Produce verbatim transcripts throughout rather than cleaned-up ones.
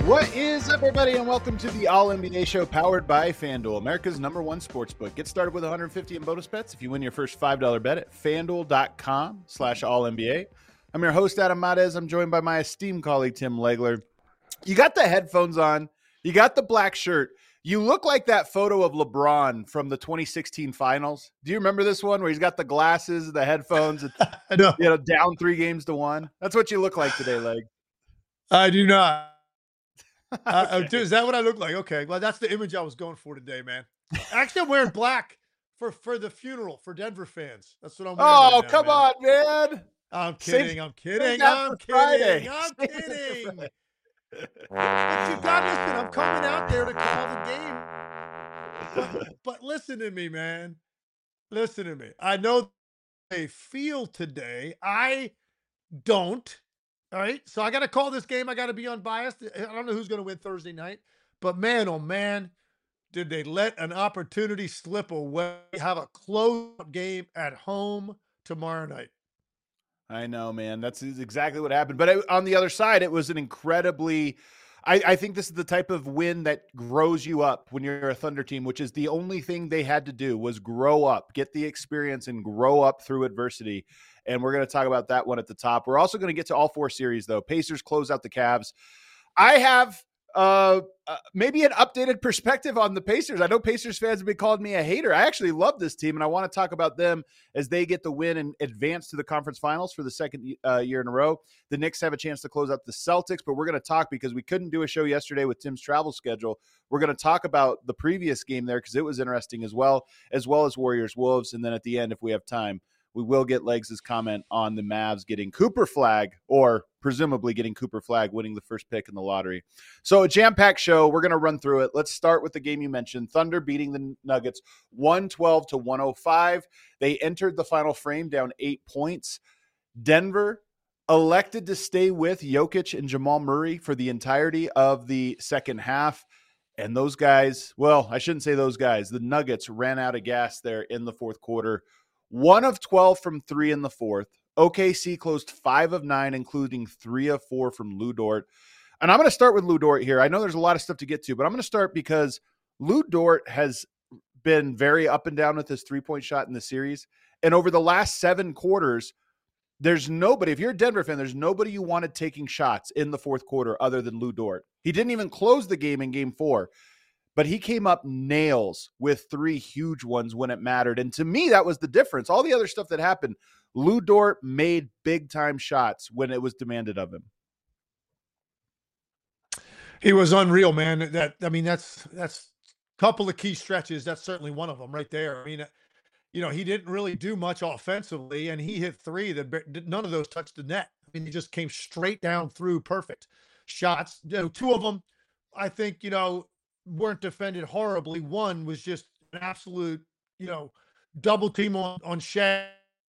What is up, everybody, and welcome to the All N B A Show powered by FanDuel, America's number one sportsbook. Get started with one hundred fifty in bonus bets if you win your first five dollar bet at FanDuel.com slash All-NBA. I'm your host, Adam Mares. I'm joined by my esteemed colleague, Tim Legler. You got the headphones on. You got the black shirt. You look like that photo of LeBron from the twenty sixteen finals. Do you remember this one where he's got the glasses, the headphones, and, no. you know, down three games to one? That's what you look like today, Leg. I do not. Uh, Okay. is that what I look like? Okay. Well, that's the image I was going for today, man. Actually, I'm wearing black for, for the funeral for Denver fans. That's what I'm wearing. Oh, right now, come man. on, man. I'm Save- kidding. I'm kidding. that I'm for kidding. Friday. I'm Save it for kidding. Friday. But you got listen. I'm coming out there to call the game. But, but listen to me, man. Listen to me. I know they feel today. I don't. All right. So I got to call this game. I got to be unbiased. I don't know who's going to win Thursday night, but man, oh man, did they let an opportunity slip away? Have a close-up game at home tomorrow night. I know, man. That's exactly what happened. But it, on the other side, it was an incredibly, I, I think this is the type of win that grows you up when you're a Thunder team, which is the only thing they had to do was grow up, get the experience and grow up through adversity. And we're going to talk about that one at the top. We're also going to get to all four series, though. Pacers close out the Cavs. I have uh, uh, maybe an updated perspective on the Pacers. I know Pacers fans have been calling me a hater. I actually love this team, and I want to talk about them as they get the win and advance to the conference finals for the second uh, year in a row. The Knicks have a chance to close out the Celtics, but we're going to talk because we couldn't do a show yesterday with Tim's travel schedule. We're going to talk about the previous game there because it was interesting as well, as well as Warriors-Wolves, and then at the end, if we have time, we will get Legs' comment on the Mavs getting Cooper Flag, or presumably getting Cooper Flag, winning the first pick in the lottery. So a jam-packed show. We're going to run through it. Let's start with the game you mentioned. Thunder beating the Nuggets one twelve to one oh five. They entered the final frame down eight points. Denver elected to stay with Jokic and Jamal Murray for the entirety of the second half. And those guys, well, I shouldn't say those guys. The Nuggets ran out of gas there in the fourth quarter. One of twelve from three in the fourth. O K C closed five of nine, including three of four from Lu Dort. And I'm going to start with Lu Dort here. I know there's a lot of stuff to get to, but I'm going to start because Lu Dort has been very up and down with his three-point shot in the series. And over the last seven quarters, there's nobody, if you're a Denver fan, there's nobody you wanted taking shots in the fourth quarter other than Lu Dort. He didn't even close the game in game four. But he came up nails with three huge ones when it mattered. And to me, that was the difference. All the other stuff that happened, Lu Dort made big-time shots when it was demanded of him. He was unreal, man. That I mean, that's that's a couple of key stretches. That's certainly one of them right there. I mean, you know, he didn't really do much offensively, and he hit three that none of those touched the net. I mean, he just came straight down through perfect shots. You know, two of them, I think, you know, weren't defended horribly. One was just an absolute, you know, double team on, on Shaq.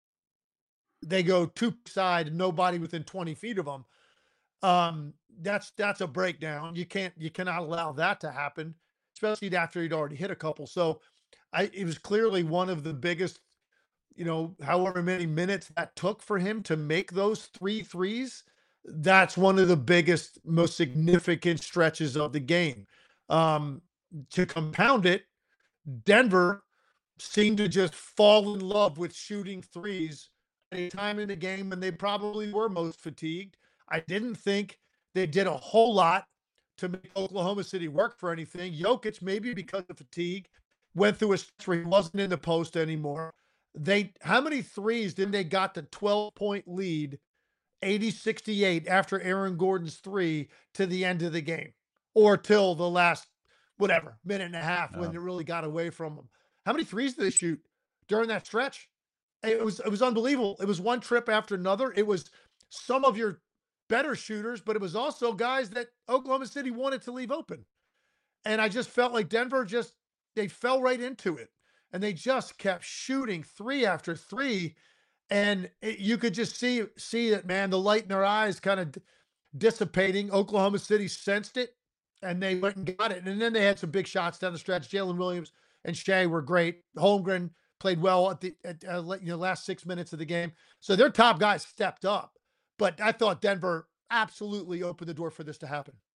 They go two side, nobody within twenty feet of them. Um, that's, that's a breakdown. You can't, you cannot allow that to happen, especially after he'd already hit a couple. So I, it was clearly one of the biggest, you know, however many minutes that took for him to make those three threes. That's one of the biggest, most significant stretches of the game. Um, to compound it, Denver seemed to just fall in love with shooting threes at a time in the game when they probably were most fatigued. I didn't think they did a whole lot to make Oklahoma City work for anything. Jokic, maybe because of fatigue, went through a stretch where he wasn't in the post anymore. They, how many threes did they got the twelve point lead, eighty sixty-eight after Aaron Gordon's three to the end of the game? Or till the last, whatever, minute and a half No. when it really got away from them. How many threes did they shoot during that stretch? It was it was unbelievable. It was one trip after another. It was some of your better shooters, but it was also guys that Oklahoma City wanted to leave open. And I just felt like Denver just, they fell right into it. And they just kept shooting three after three. And it, you could just see, see it, man, the light in their eyes kind of d- dissipating. Oklahoma City sensed it, and they went and got it. And then they had some big shots down the stretch. Jalen Williams and Shea were great. Holmgren played well at the at, uh, you know last six minutes of the game. So their top guys stepped up. But I thought Denver absolutely opened the door for this to happen.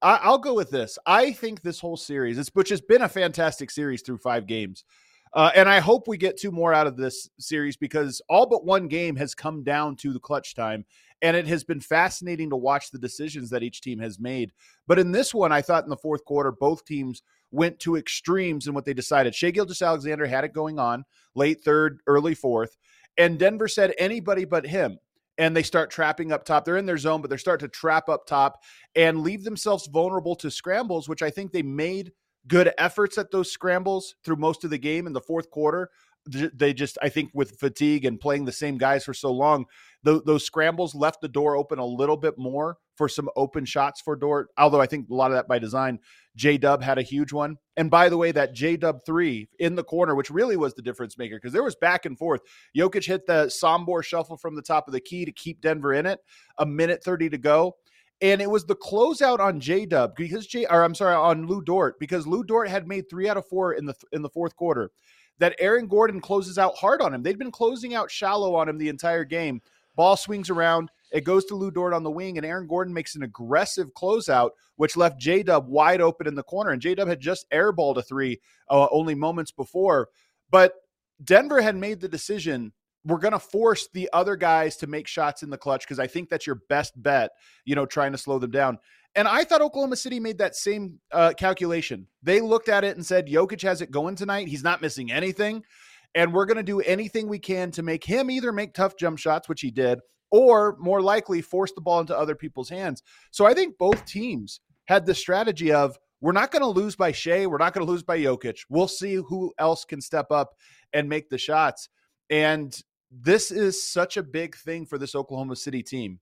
I, I'll go with this. I think this whole series, it's, which has been a fantastic series through five games, uh, and I hope we get two more out of this series because all but one game has come down to the clutch time, and it has been fascinating to watch the decisions that each team has made. But in this one, I thought in the fourth quarter, both teams went to extremes in what they decided. Shai Gilgeous-Alexander had it going on late third, early fourth, and Denver said anybody but him. And they start trapping up top. They're in their zone, but they're starting to trap up top and leave themselves vulnerable to scrambles, which I think they made good efforts at those scrambles through most of the game in the fourth quarter. They just, I think with fatigue and playing the same guys for so long, th- those scrambles left the door open a little bit more for some open shots for Dort. Although I think a lot of that by design. J-Dub had a huge one. And by the way, that J-Dub three in the corner, which really was the difference maker because there was back and forth. Jokic hit the Sombor shuffle from the top of the key to keep Denver in it. A minute thirty to go. And it was the closeout on J-Dub because J, or I'm sorry, on Lou Dort, because Lou Dort had made three out of four in the in the fourth quarter. That Aaron Gordon closes out hard on him. They'd been closing out shallow on him the entire game. Ball swings around. It goes to Lou Dort on the wing, and Aaron Gordon makes an aggressive closeout, which left J-Dub wide open in the corner. And J-Dub had just airballed a three uh, only moments before. But Denver had made the decision, we're going to force the other guys to make shots in the clutch because I think that's your best bet, you know, trying to slow them down. And I thought Oklahoma City made that same uh, calculation. They looked at it and said, Jokic has it going tonight. He's not missing anything. And we're going to do anything we can to make him either make tough jump shots, which he did, or more likely force the ball into other people's hands. So I think both teams had the strategy of, we're not going to lose by Shai. We're not going to lose by Jokic. We'll see who else can step up and make the shots. And this is such a big thing for this Oklahoma City team.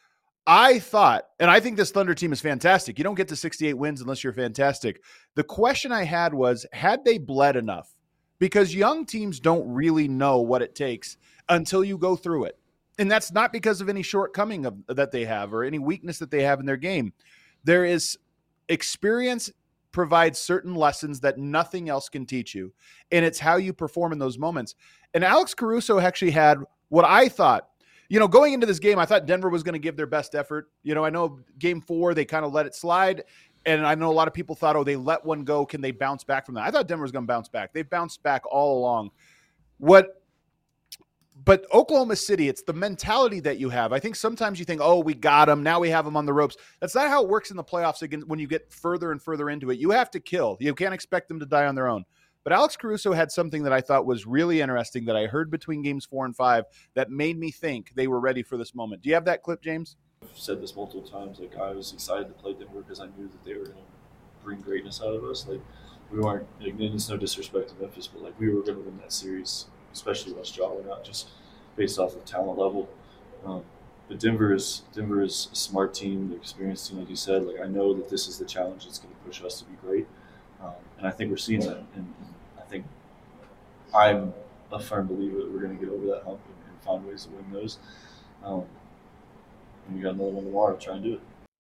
I thought, and I think this Thunder team is fantastic. You don't get to sixty-eight wins unless you're fantastic. The question I had was, had they bled enough? Because young teams don't really know what it takes until you go through it. And that's not because of any shortcoming of, that they have or any weakness that they have in their game. There is experience provides certain lessons that nothing else can teach you. And it's how you perform in those moments. And Alex Caruso actually had what I thought, you know, going into this game, I thought Denver was going to give their best effort. You know, I know game four, they kind of let it slide. And I know a lot of people thought, oh, they let one go. Can they bounce back from that? I thought Denver was going to bounce back. They've bounced back all along. What, but Oklahoma City, it's the mentality that you have. I think sometimes you think, oh, we got them. Now we have them on the ropes. That's not how it works in the playoffs again. When you get further and further into it, you have to kill. You can't expect them to die on their own. But Alex Caruso had something that I thought was really interesting that I heard between games four and five that made me think they were ready for this moment. Do you have that clip, James? I've said this multiple times. Like, I was excited to play Denver because I knew that they were going to bring greatness out of us. Like, we weren't, like, it's no disrespect to Memphis, but like we were going to win that series, especially once Ja went out, just based off of talent level. Um, but Denver is Denver is a smart team, the experienced team, like you said. Like, I know that this is the challenge that's going to push us to be great, um, and I think we're seeing that. And, and I think I'm a firm believer that we're going to get over that hump and, and find ways to win those. Um, and we got another one tomorrow to try and do it.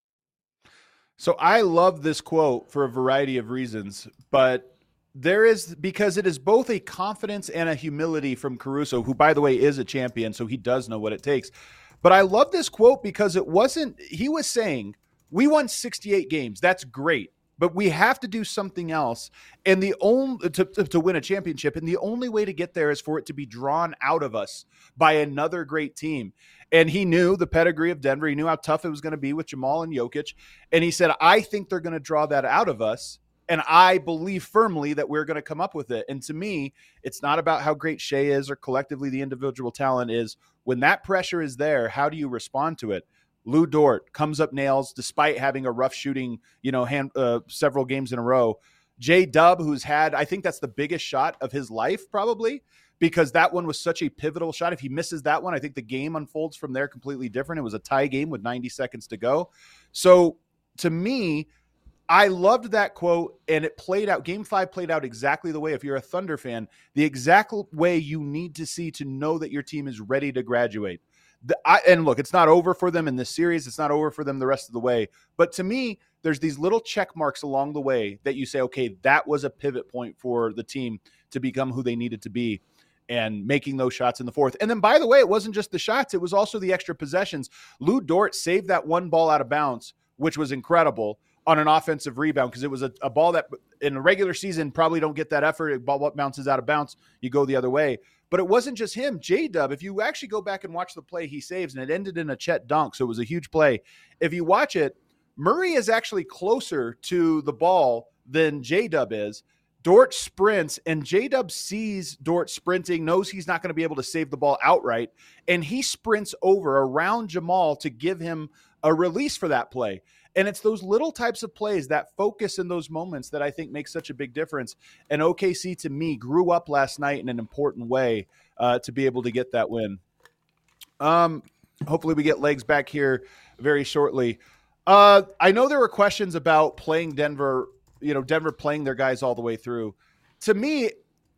So I love this quote for a variety of reasons, but there is, because it is both a confidence and a humility from Caruso, who, by the way, is a champion, so he does know what it takes. But I love this quote because it wasn't, he was saying, we won sixty-eight games. That's great. But we have to do something else, and the only to, to, to win a championship. And the only way to get there is for it to be drawn out of us by another great team. And he knew the pedigree of Denver. He knew how tough it was going to be with Jamal and Jokic. And he said, I think they're going to draw that out of us. And I believe firmly that we're going to come up with it. And to me, it's not about how great Shai is or collectively the individual talent is. When that pressure is there, how do you respond to it? Lou Dort comes up nails despite having a rough shooting, you know, hand, uh, several games in a row. J-Dub, who's had, I think that's the biggest shot of his life probably, because that one was such a pivotal shot. If he misses that one, I think the game unfolds from there completely different. It was a tie game with ninety seconds to go. So to me, I loved that quote, and it played out. Game five played out exactly the way, if you're a Thunder fan, the exact way you need to see to know that your team is ready to graduate. The, I, and look, it's not over for them in this series. It's not over for them the rest of the way. But to me, there's these little check marks along the way that you say, okay, that was a pivot point for the team to become who they needed to be, and making those shots in the fourth. And then, by the way, it wasn't just the shots. It was also the extra possessions. Lou Dort saved that one ball out of bounds, which was incredible. on an offensive rebound because it was a, a ball that in a regular season probably don't get that effort. A ball bounces out of bounds, you go the other way. But it wasn't just him. J-Dub, if you actually go back and watch the play he saves, and it ended in a Chet dunk, so it was a huge play. If you watch it, Murray is actually closer to the ball than J-Dub is. Dort sprints, and J-Dub sees Dort sprinting, knows he's not going to be able to save the ball outright, and he sprints over around Jamal to give him a release for that play. And it's those little types of plays, that focus in those moments that I think makes such a big difference. And O K C, to me, grew up last night in an important way uh, to be able to get that win. Um, hopefully we get legs back here very shortly. Uh, I know there were questions about playing Denver, you know, Denver playing their guys all the way through. To me,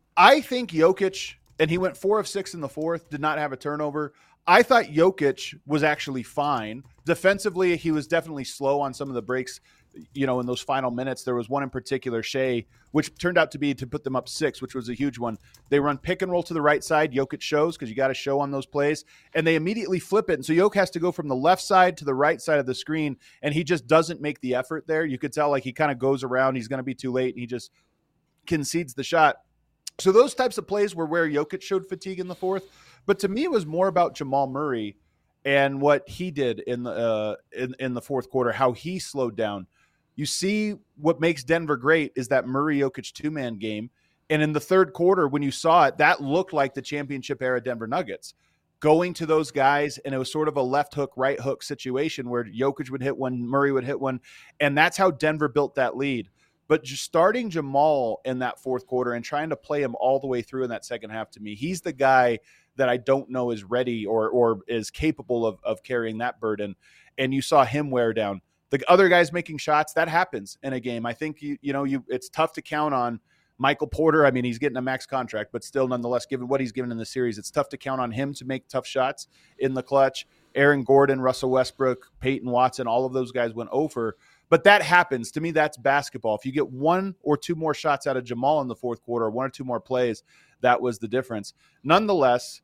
I think Jokic, and he went four of six in the fourth, did not have a turnover. I thought Jokic was actually fine. Defensively, he was definitely slow on some of the breaks, you know, in those final minutes. There was one in particular, Shea, which turned out to be to put them up six, which was a huge one. They run pick and roll to the right side. Jokic shows because you got to show on those plays, and they immediately flip it. And so Jokic has to go from the left side to the right side of the screen, and he just doesn't make the effort there. You could tell like he kind of goes around. He's going to be too late, and he just concedes the shot. So those types of plays were where Jokic showed fatigue in the fourth. But to me, it was more about Jamal Murray and what he did in the uh, in, in the fourth quarter, how he slowed down. You see what makes Denver great is that Murray-Jokic two-man game. And in the third quarter, when you saw it, that looked like the championship-era Denver Nuggets. Going to those guys, and it was sort of a left hook, right hook situation where Jokic would hit one, Murray would hit one, and that's how Denver built that lead. But just starting Jamal in that fourth quarter and trying to play him all the way through in that second half, to me, he's the guy that I don't know is ready or or is capable of, of carrying that burden. And you saw him wear down. The other guys making shots, that happens in a game. I think, you you know, you it's tough to count on Michael Porter. I mean, he's getting a max contract, but still, nonetheless, given what he's given in the series, it's tough to count on him to make tough shots in the clutch. Aaron Gordon, Russell Westbrook, Peyton Watson, all of those guys went over. But that happens. To me, that's basketball. If you get one or two more shots out of Jamal in the fourth quarter, one or two more plays, that was the difference. Nonetheless,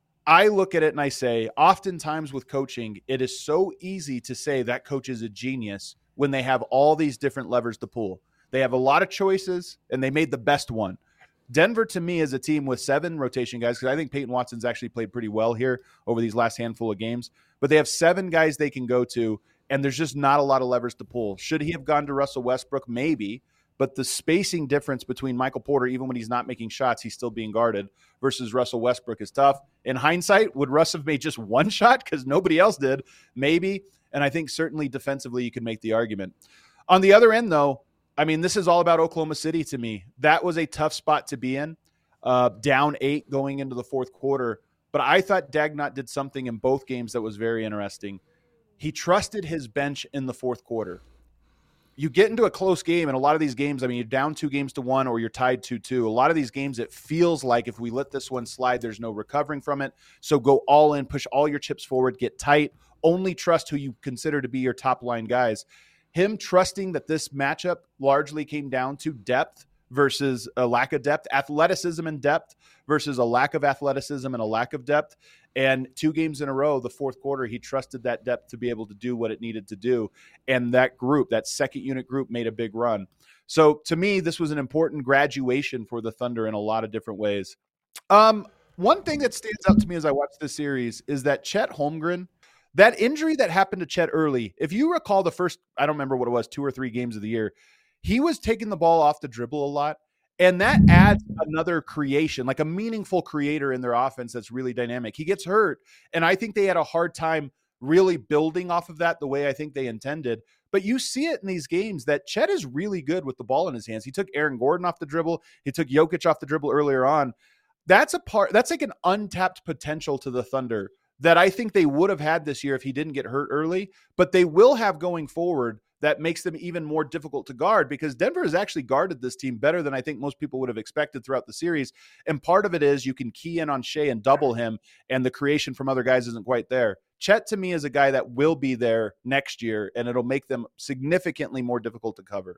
I look at it and I say, oftentimes with coaching, it is so easy to say that coach is a genius when they have all these different levers to pull. They have a lot of choices, and they made the best one. Denver, to me, is a team with seven rotation guys, because I think Peyton Watson's actually played pretty well here over these last handful of games. But they have seven guys they can go to, and there's just not a lot of levers to pull. Should he have gone to Russell Westbrook? Maybe. But the spacing difference between Michael Porter, even when he's not making shots, he's still being guarded, versus Russell Westbrook is tough. In hindsight, would Russ have made just one shot because nobody else did? Maybe. And I think certainly defensively you could make the argument. On the other end, though, I mean, this is all about Oklahoma City to me. That was a tough spot to be in, uh, down eight going into the fourth quarter. But I thought Dagnott did something in both games that was very interesting. He trusted his bench in the fourth quarter. You get into a close game, and a lot of these games, I mean, you're down two games to one or you're tied two two. A lot of these games, it feels like if we let this one slide, there's no recovering from it. So go all in, push all your chips forward, get tight, only trust who you consider to be your top line guys. Him trusting that this matchup largely came down to depth versus a lack of depth, athleticism and depth versus a lack of athleticism and a lack of depth. And two games in a row, the fourth quarter, he trusted that depth to be able to do what it needed to do. And that group, that second unit group, made a big run. So to me, this was an important graduation for the Thunder in a lot of different ways. Um, one thing that stands out to me as I watch this series is that Chet Holmgren, that injury that happened to Chet early, if you recall the first, I don't remember what it was, two or three games of the year, he was taking the ball off the dribble a lot. And that adds another creation, like a meaningful creator in their offense that's really dynamic. He gets hurt, and I think they had a hard time really building off of that the way I think they intended. But you see it in these games that Chet is really good with the ball in his hands. He took Aaron Gordon off the dribble. He took Jokic off the dribble earlier on. That's a part, that's like an untapped potential to the Thunder that I think they would have had this year if he didn't get hurt early, but they will have going forward that makes them even more difficult to guard, because Denver has actually guarded this team better than I think most people would have expected throughout the series. And part of it is you can key in on Shea and double him, and the creation from other guys isn't quite there. Chet, to me, is a guy that will be there next year, and it'll make them significantly more difficult to cover.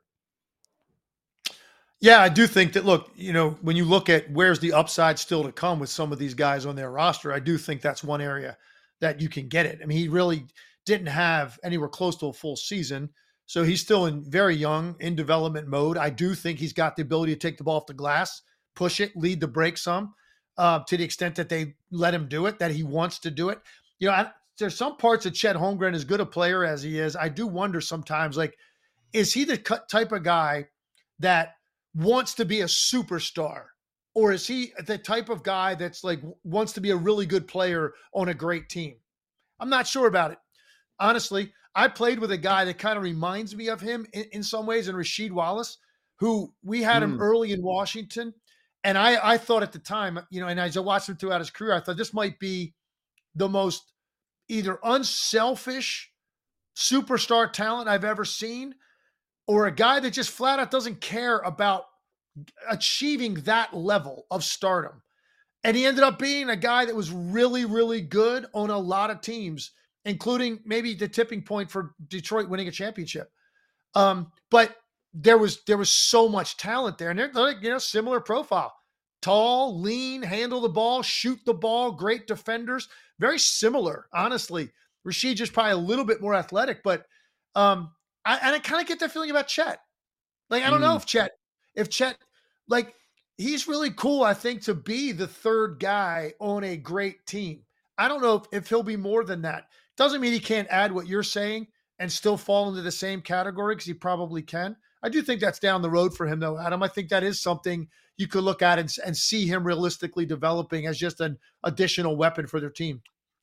Yeah, I do think that, look, you know, when you look at where's the upside still to come with some of these guys on their roster, I do think that's one area that you can get it. I mean, he really didn't have anywhere close to a full season. So he's still in very young in development mode. I do think he's got the ability to take the ball off the glass, push it, lead the break some, uh, to the extent that they let him do it, that he wants to do it. You know, I, there's some parts of Chet Holmgren, as good a player as he is, I do wonder sometimes, like, is he the type of guy that wants to be a superstar? Or is he the type of guy that's like wants to be a really good player on a great team? I'm not sure about it. Honestly, I played with a guy that kind of reminds me of him in, in some ways, in Rasheed Wallace, who we had him Mm. early in Washington. And I, I thought at the time, you know, and as I watched him throughout his career, I thought this might be the most either unselfish superstar talent I've ever seen, or a guy that just flat out doesn't care about achieving that level of stardom. And he ended up being a guy that was really, really good on a lot of teams, including maybe the tipping point for Detroit winning a championship. Um, but there was there was so much talent there, and they're like, you know, similar profile: tall, lean, handle the ball, shoot the ball, great defenders. Very similar, honestly. Rasheed just probably a little bit more athletic, but um, I, and I kind of get that feeling about Chet. Like, I don't know Mm. if Chet, if Chet, like, he's really cool, I think, to be the third guy on a great team. I don't know if, if he'll be more than that. Doesn't mean he can't add what you're saying and still fall into the same category, because he probably can. I do think that's down the road for him, though, Adam. I think that is something you could look at and, and see him realistically developing as just an additional weapon for their team.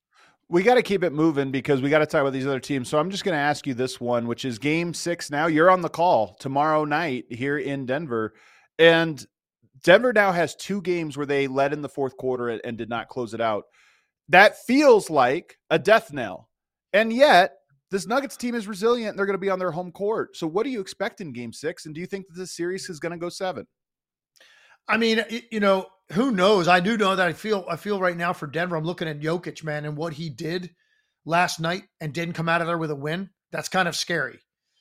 We got to keep it moving because we got to talk about these other teams. So I'm just going to ask you this one, which is game six now. You're on the call tomorrow night here in Denver. And Denver now has two games where they led in the fourth quarter and did not close it out. That feels like a death knell. And yet, this Nuggets team is resilient and they're going to be on their home court. So what do you expect in game six? And do you think that this series is going to go seven? I mean, you know, who knows? I do know that I feel I feel right now for Denver, I'm looking at Jokic, man, and what he did last night and didn't come out of there with a win. That's kind of scary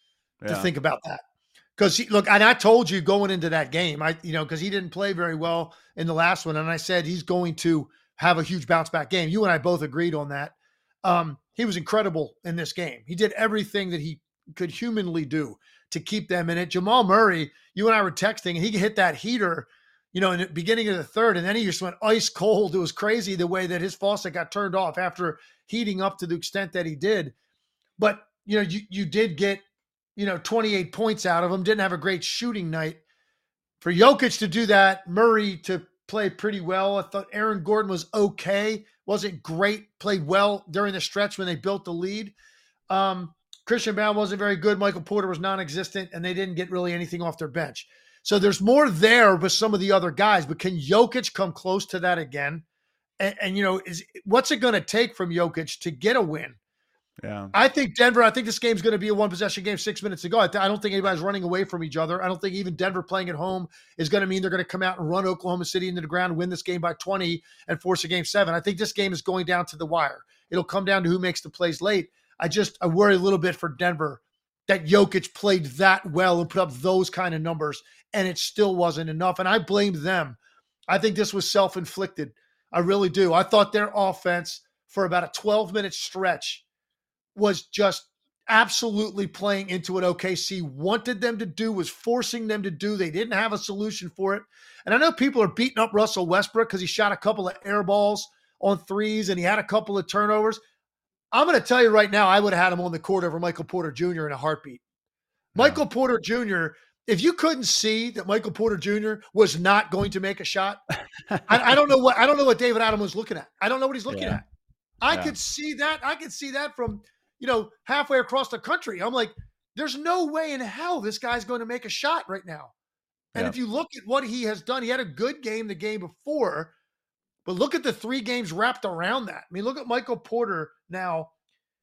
to Yeah. think about that. Because, look, and I told you going into that game, I you know, because he didn't play very well in the last one, and I said he's going to have a huge bounce back game. You and I both agreed on that. Um, he was incredible in this game. He did everything that he could humanly do to keep them in it. Jamal Murray, you and I were texting, and he hit that heater, you know, in the beginning of the third, and then he just went ice cold. It was crazy the way that his faucet got turned off after heating up to the extent that he did. But, you know, you you did get, you know, twenty-eight points out of him, didn't have a great shooting night. For Jokic to do that, Murray to play pretty well. I thought Aaron Gordon was okay, wasn't great, played well during the stretch when they built the lead. Um, Christian Brown wasn't very good. Michael Porter was non-existent, and they didn't get really anything off their bench. So there's more there with some of the other guys, but can Jokic come close to that again? And, and you know, is what's it going to take from Jokic to get a win? Yeah. I think Denver, I think this game's going to be a one-possession game, six minutes to go. I, th- I don't think anybody's running away from each other. I don't think even Denver playing at home is going to mean they're going to come out and run Oklahoma City into the ground, win this game by twenty, and force a game seven. I think this game is going down to the wire. It'll come down to who makes the plays late. I just I worry a little bit for Denver that Jokic played that well and put up those kind of numbers, and it still wasn't enough. And I blame them. I think this was self-inflicted. I really do. I thought their offense for about a twelve-minute stretch was just absolutely playing into what O K C wanted them to do, was forcing them to do. They didn't have a solution for it. And I know people are beating up Russell Westbrook because he shot a couple of air balls on threes and he had a couple of turnovers. I'm going to tell you right now, I would have had him on the court over Michael Porter Junior in a heartbeat. Yeah. Michael Porter Junior, if you couldn't see that Michael Porter Junior was not going to make a shot, I, I don't know what I don't know what David Adam was looking at. I don't know what he's looking Yeah. at. I Yeah. could see that. I could see that from, you know, halfway across the country. I'm like, there's no way in hell this guy's going to make a shot right now. And Yeah. if you look at what he has done, he had a good game the game before, but look at the three games wrapped around that. I mean, look at Michael Porter now.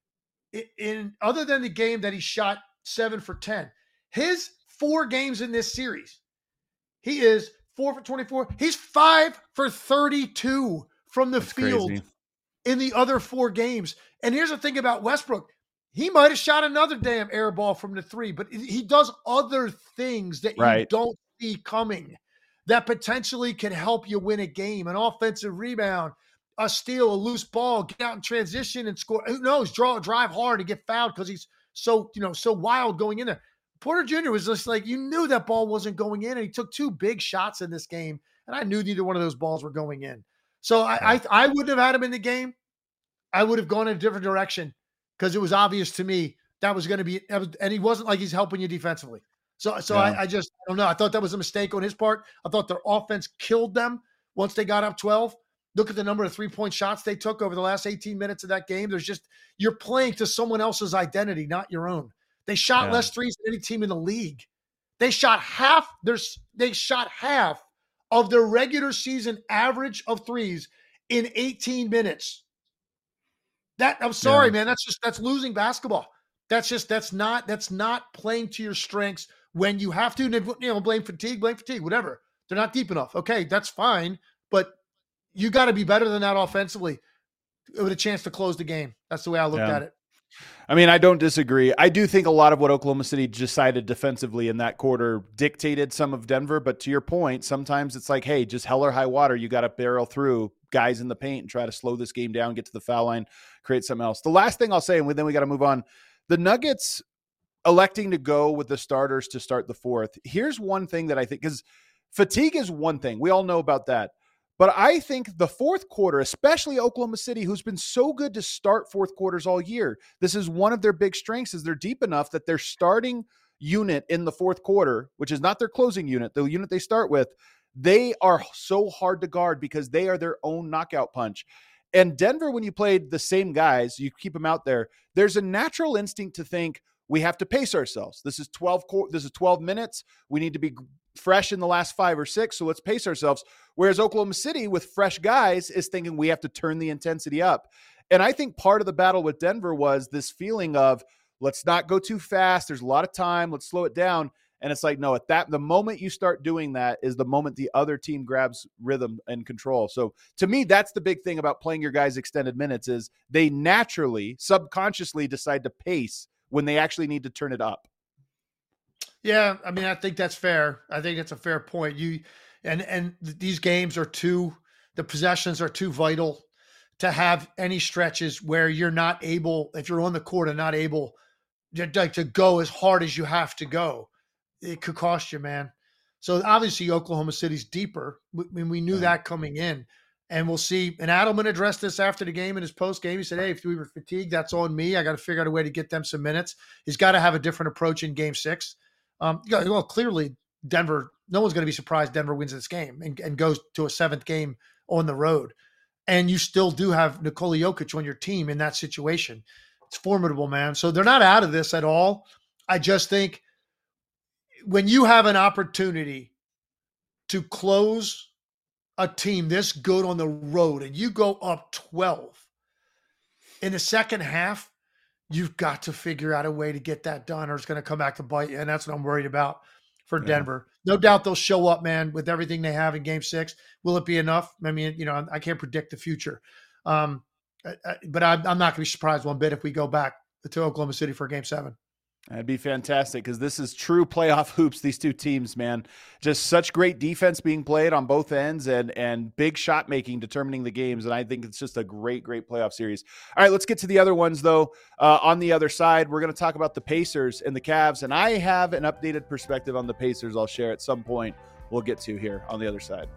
In, in other than the game that he shot seven for ten, his four games in this series, he is four for twenty-four. He's five for thirty-two from the That's field crazy. in the other four games. And here's the thing about Westbrook. He might have shot another damn air ball from the three, but he does other things that you Right. don't see coming that potentially can help you win a game. An offensive rebound, a steal, a loose ball, get out in transition and score. Who knows? Draw, drive hard and get fouled because he's so, you know, so wild going in there. Porter Junior was just like, you knew that ball wasn't going in, and he took two big shots in this game, and I knew neither one of those balls were going in. So I, I, I wouldn't have had him in the game. I would have gone in a different direction because it was obvious to me that was going to be, and he wasn't like he's helping you defensively. So, so yeah. I, I just, I don't know. I thought that was a mistake on his part. I thought their offense killed them once they got up twelve. Look at the number of three-point shots they took over the last eighteen minutes of that game. There's just, you're playing to someone else's identity, not your own. They shot yeah. less threes than any team in the league. They shot half, there's, they shot half of their regular season average of threes in eighteen minutes. That, I'm sorry, yeah. man. That's just, that's losing basketball. That's just, that's not, that's not playing to your strengths when you have to, you know, blame fatigue, blame fatigue, whatever. They're not deep enough. Okay, that's fine. But you got to be better than that offensively with a chance to close the game. That's the way I looked yeah. at it. I mean, I don't disagree. I do think a lot of what Oklahoma City decided defensively in that quarter dictated some of Denver. But to your point, sometimes it's like, hey, just hell or high water. You got to barrel through guys in the paint and try to slow this game down, get to the foul line, create something else. The last thing I'll say, and then we got to move on. The Nuggets electing to go with the starters to start the fourth. Here's one thing that I think, because fatigue is one thing. We all know about that. But I think the fourth quarter, especially Oklahoma City, who's been so good to start fourth quarters all year, this is one of their big strengths, is they're deep enough that their starting unit in the fourth quarter, which is not their closing unit, the unit they start with, they are so hard to guard because they are their own knockout punch. And Denver, when you played the same guys, you keep them out there, there's a natural instinct to think we have to pace ourselves. This is twelve, this is twelve minutes. We need to be fresh in the last five or six, so let's pace ourselves. Whereas Oklahoma City with fresh guys is thinking we have to turn the intensity up. And I think part of the battle with Denver was this feeling of let's not go too fast. There's a lot of time. Let's slow it down. And it's like, no, at that, the moment you start doing that is the moment the other team grabs rhythm and control. So to me, that's the big thing about playing your guys extended minutes is they naturally, subconsciously decide to pace when they actually need to turn it up. Yeah, I mean, I think that's fair. I think it's a fair point. You and and these games are too, the possessions are too vital to have any stretches where you're not able, if you're on the court and not able to, like, to go as hard as you have to go. It could cost you, man. So obviously Oklahoma City's deeper. I mean, we knew yeah. that coming in, and we'll see. And Adelman addressed this after the game in his post game. He said, hey, if we were fatigued, that's on me. I got to figure out a way to get them some minutes. He's got to have a different approach in game six. Um, well, clearly Denver, no one's going to be surprised Denver wins this game and, and goes to a seventh game on the road. And you still do have Nikola Jokic on your team in that situation. It's formidable, man. So they're not out of this at all. I just think when you have an opportunity to close a team this good on the road and you go up twelve in the second half, you've got to figure out a way to get that done or it's going to come back to bite you. And that's what I'm worried about for yeah. Denver. No doubt they'll show up, man, with everything they have in game six. Will it be enough? I mean, you know, I can't predict the future. Um, but I'm not going to be surprised one bit if we go back to Oklahoma City for game seven. That'd be fantastic because this is true playoff hoops, these two teams, man. Just such great defense being played on both ends and and big shot making determining the games. And I think it's just a great, great playoff series. All right, let's get to the other ones, though. Uh, on the other side, we're going to talk about the Pacers and the Cavs. And I have an updated perspective on the Pacers I'll share at some point. We'll get to here on the other side.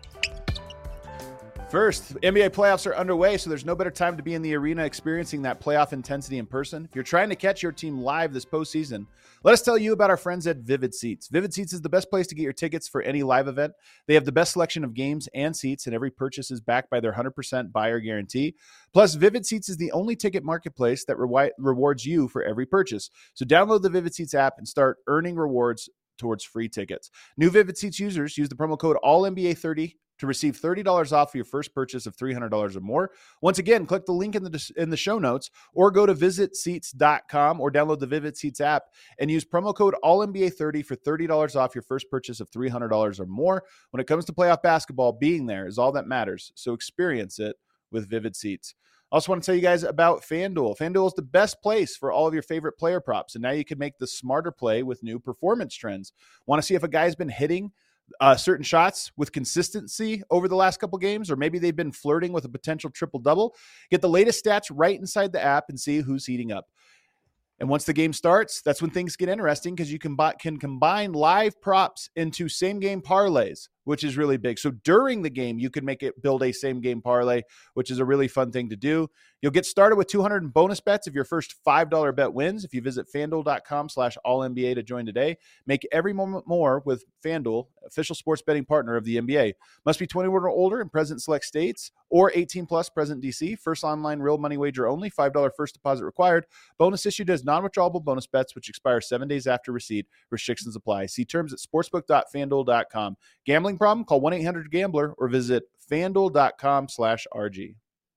First, N B A playoffs are underway, so there's no better time to be in the arena experiencing that playoff intensity in person. If you're trying to catch your team live this postseason, let us tell you about our friends at Vivid Seats. Vivid Seats is the best place to get your tickets for any live event. They have the best selection of games and seats, and every purchase is backed by their one hundred percent buyer guarantee. Plus, Vivid Seats is the only ticket marketplace that re- rewards you for every purchase. So download the Vivid Seats app and start earning rewards towards free tickets. New Vivid Seats users use the promo code all N B A thirty to receive thirty dollars off your first purchase of three hundred dollars or more. Once again, click the link in the in the show notes or go to visit seats dot com or download the Vivid Seats app and use promo code all N B A thirty for thirty dollars off your first purchase of three hundred dollars or more. When it comes to playoff basketball, being there is all that matters. So experience it with Vivid Seats. I also want to tell you guys about FanDuel. FanDuel is the best place for all of your favorite player props, and now you can make the smarter play with new performance trends. Want to see if a guy's been hitting Uh, certain shots with consistency over the last couple games, or maybe they've been flirting with a potential triple-double? Get the latest stats right inside the app and see who's heating up. And once the game starts, that's when things get interesting because you can, can combine live props into same game parlays, which is really big. So during the game, you can make it build a same game parlay, which is a really fun thing to do. You'll get started with two hundred in bonus bets if your first five dollar bet wins. If you visit fanduel.com slash all NBA to join today, make every moment more with FanDuel, official sports betting partner of the N B A. Must be twenty-one or older in present select states or eighteen plus present D C. First online real money wager only. five dollar first deposit required. Bonus issued as non-withdrawable bonus bets, which expire seven days after receipt. Restrictions apply. See terms at sportsbook dot fanduel dot com. Gambling problem? Call one eight hundred gambler or visit fanduel.com slash RG.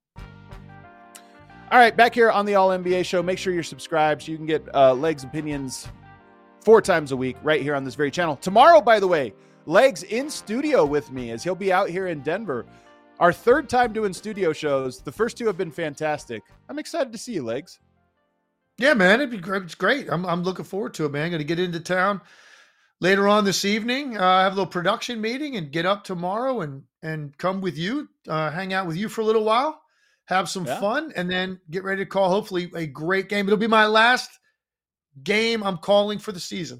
All right, back here on the All N B A show, make sure you're subscribed so you can get uh, Legs opinions four times a week right here on this very channel. Tomorrow, by the way, Legs in studio with me as he'll be out here in Denver. Our third time doing studio shows. The first two have been fantastic. I'm excited to see you, Legs. Yeah, man, it'd be great. It's great. I'm I'm looking forward to it, man. I'm going to get into town later on this evening. Uh, have a little production meeting and get up tomorrow and and come with you, uh, hang out with you for a little while. Have some yeah. fun, and then get ready to call, hopefully, a great game. It'll be my last game I'm calling for the season.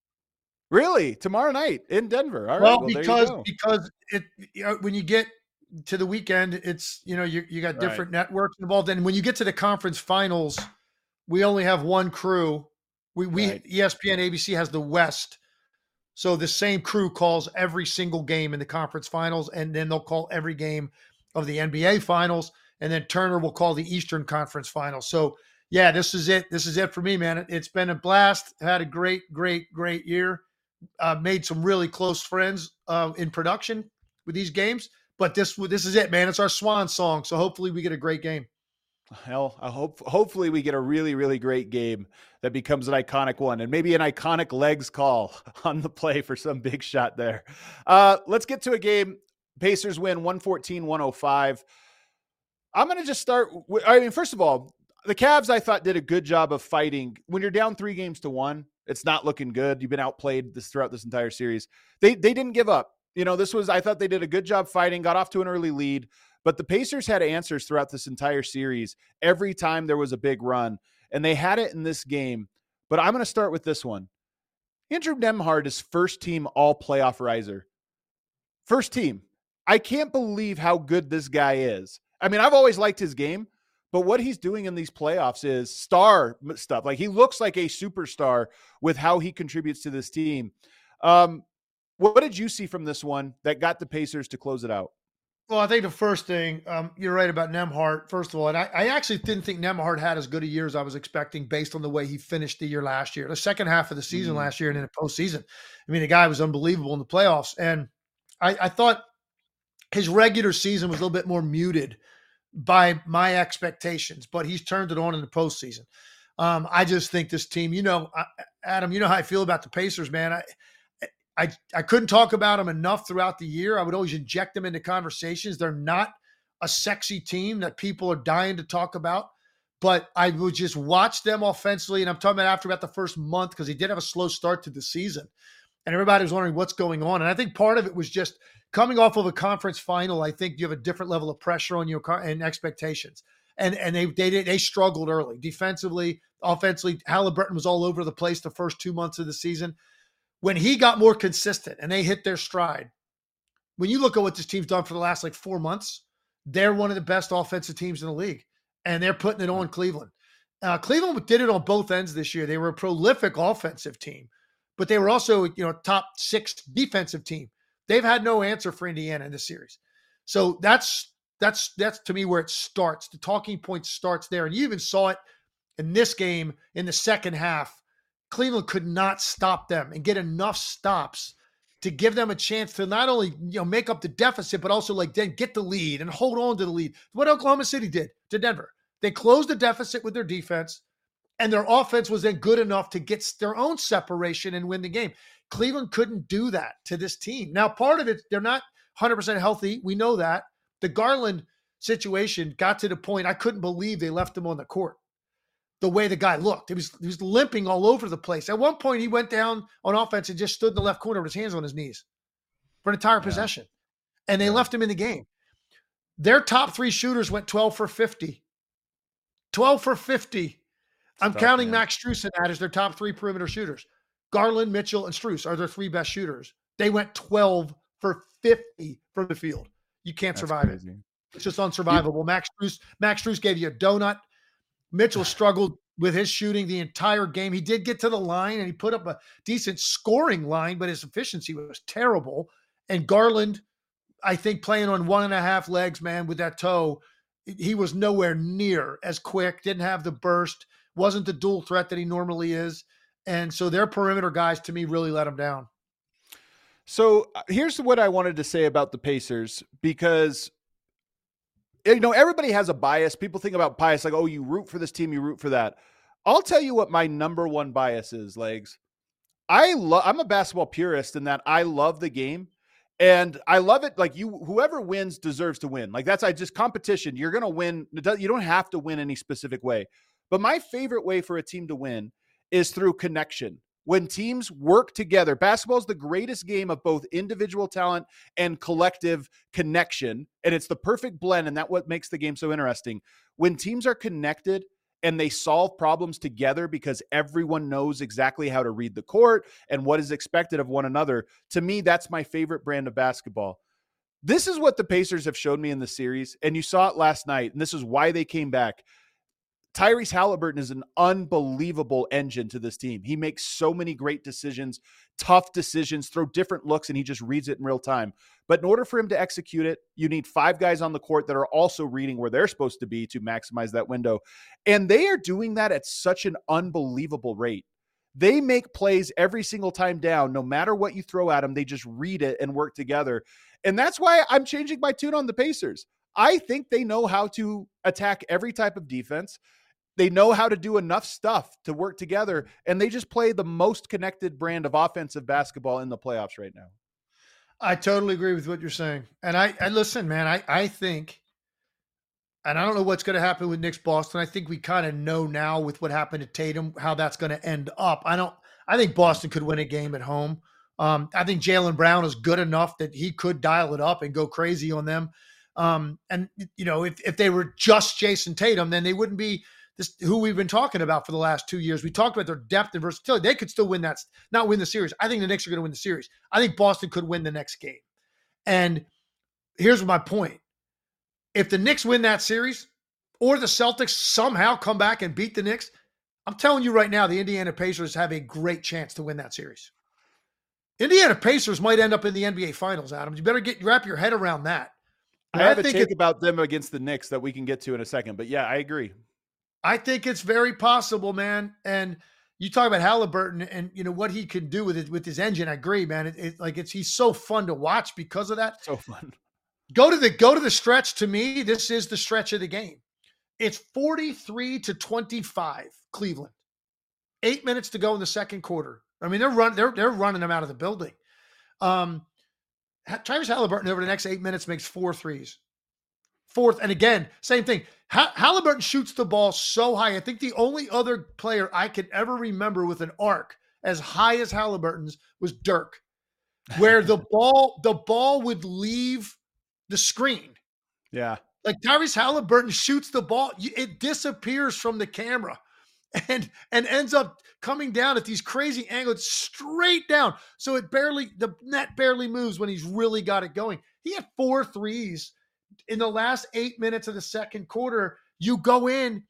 Really? Tomorrow night in Denver? All right. Well, well because because it you know, when you get to the weekend, it's, you know, you, you got different right. networks involved. And when you get to the conference finals, we only have one crew. We, we right. E S P N, A B C has the West. So the same crew calls every single game in the conference finals, and then they'll call every game of the N B A finals. And then Turner will call the Eastern Conference Finals. So, yeah, this is it. This is it for me, man. It's been a blast. Had a great, great, great year. Uh, made some really close friends uh, in production with these games. But this this is it, man. It's our swan song. So hopefully we get a great game. Hell, I hope hopefully we get a really, really great game that becomes an iconic one, and maybe an iconic Legs call on the play for some big shot there. Uh, let's get to a game. Pacers win one fourteen one oh five. I'm going to just start. With, I mean, first of all, the Cavs, I thought, did a good job of fighting. When you're down three games to one, it's not looking good. You've been outplayed this throughout this entire series. They they didn't give up. You know, this was, I thought they did a good job fighting, got off to an early lead, but the Pacers had answers throughout this entire series every time there was a big run, and they had it in this game. But I'm going to start with this one. Andrew Nembhard is first team all playoff riser. First team. I can't believe how good this guy is. I mean, I've always liked his game, but what he's doing in these playoffs is star stuff. Like, he looks like a superstar with how he contributes to this team. Um, what did you see from this one that got the Pacers to close it out? Well, I think the first thing, um, you're right about Nembhard, first of all, and I, I actually didn't think Nembhard had as good a year as I was expecting based on the way he finished the year last year, the second half of the season mm-hmm. last year and in the postseason. I mean, the guy was unbelievable in the playoffs. And I, I thought his regular season was a little bit more muted by my expectations, but he's turned it on in the postseason. Um, I just think this team, you know, I, Adam, you know how I feel about the Pacers, man. I, I, I couldn't talk about them enough throughout the year. I would always inject them into conversations. They're not a sexy team that people are dying to talk about, but I would just watch them offensively. And I'm talking about after about the first month, because he did have a slow start to the season. And everybody was wondering what's going on. And I think part of it was just coming off of a conference final. I think you have a different level of pressure on you and expectations. And and they they they struggled early. Defensively, offensively, Halliburton was all over the place the first two months of the season. When he got more consistent and they hit their stride, when you look at what this team's done for the last like four months, they're one of the best offensive teams in the league. And they're putting it on Cleveland. Uh, Cleveland did it on both ends this year. They were a prolific offensive team, but they were also, you know, top six defensive team. They've had no answer for Indiana in this series. So that's, that's, that's to me where it starts. The talking point starts there. And you even saw it in this game in the second half. Cleveland could not stop them and get enough stops to give them a chance to not only, you know, make up the deficit, but also like then get the lead and hold on to the lead. What Oklahoma City did to Denver. They closed the deficit with their defense, and their offense was then good enough to get their own separation and win the game. Cleveland couldn't do that to this team. Now, part of it, they're not one hundred percent healthy. We know that. The Garland situation got to the point I couldn't believe they left him on the court. The way the guy looked, he was, he was limping all over the place. At one point, he went down on offense and just stood in the left corner with his hands on his knees for an entire yeah. possession. And they yeah. left him in the game. Their top three shooters went twelve for fifty. twelve for fifty. I'm tough, counting man. Max Strus in that as their top three perimeter shooters. Garland, Mitchell, and Strus are their three best shooters. They went twelve for fifty from the field. You can't That's survive crazy. it. It's just unsurvivable. Max Strus, Max Strus gave you a donut. Mitchell struggled with his shooting the entire game. He did get to the line and he put up a decent scoring line, but his efficiency was terrible. And Garland, I think playing on one and a half legs, man, with that toe, he was nowhere near as quick, didn't have the burst, wasn't the dual threat that he normally is. And so their perimeter guys, to me, really let him down. So here's what I wanted to say about the Pacers, because, you know, everybody has a bias. People think about bias like, oh, you root for this team, you root for that. I'll tell you what my number one bias is, Legs. I love, I'm a basketball purist in that I love the game. And I love it. Like, you, whoever wins deserves to win. Like, that's, I just competition. You're going to win. You don't have to win any specific way. But my favorite way for a team to win is through connection. When teams work together, basketball is the greatest game of both individual talent and collective connection. And it's the perfect blend. And that's what makes the game so interesting. When teams are connected and they solve problems together because everyone knows exactly how to read the court and what is expected of one another, to me, that's my favorite brand of basketball. This is what the Pacers have shown me in the series, and you saw it last night, and this is why they came back. Tyrese Halliburton is an unbelievable engine to this team. He makes so many great decisions, tough decisions, throw different looks, and he just reads it in real time. But in order for him to execute it, you need five guys on the court that are also reading where they're supposed to be to maximize that window. And they are doing that at such an unbelievable rate. They make plays every single time down. No matter what you throw at them, they just read it and work together. And that's why I'm changing my tune on the Pacers. I think they know how to attack every type of defense. They know how to do enough stuff to work together, and they just play the most connected brand of offensive basketball in the playoffs right now. I totally agree with what you're saying. And I, I listen, man, I, I think, and I don't know what's going to happen with Knicks Boston. I think we kind of know now with what happened to Tatum, how that's going to end up. I don't, I think Boston could win a game at home. Um, I think Jaylen Brown is good enough that he could dial it up and go crazy on them. Um, and, you know, if, if they were just Jason Tatum, then they wouldn't be this who we've been talking about for the last two years. We talked about their depth and versatility. They could still win that, not win the series. I think the Knicks are going to win the series. I think Boston could win the next game. And here's my point. If the Knicks win that series or the Celtics somehow come back and beat the Knicks, I'm telling you right now, the Indiana Pacers have a great chance to win that series. Indiana Pacers might end up in the N B A Finals, Adam. You better get wrap your head around that. I have I a take about them against the Knicks that we can get to in a second. But yeah, I agree. I think it's very possible, man. And you talk about Halliburton and, you know, what he can do with it, with his engine. I agree, man. It, it, like it's, he's so fun to watch because of that. So fun. Go to the, go to the stretch. To me, this is the stretch of the game. It's forty-three to twenty-five Cleveland. Eight minutes to go in the second quarter. I mean, they're run, they're, they're running them out of the building. Um, Tyrese Halliburton over the next eight minutes makes four threes. Fourth, and again, same thing. Halliburton shoots the ball so high. I think the only other player I could ever remember with an arc as high as Halliburton's was Dirk, where the ball the ball would leave the screen. Yeah. Like Tyrese Halliburton shoots the ball, it disappears from the camera and and ends up coming down at these crazy angles straight down. So it barely, the net barely moves when he's really got it going. He had four threes in the last eight minutes of the second quarter. You go in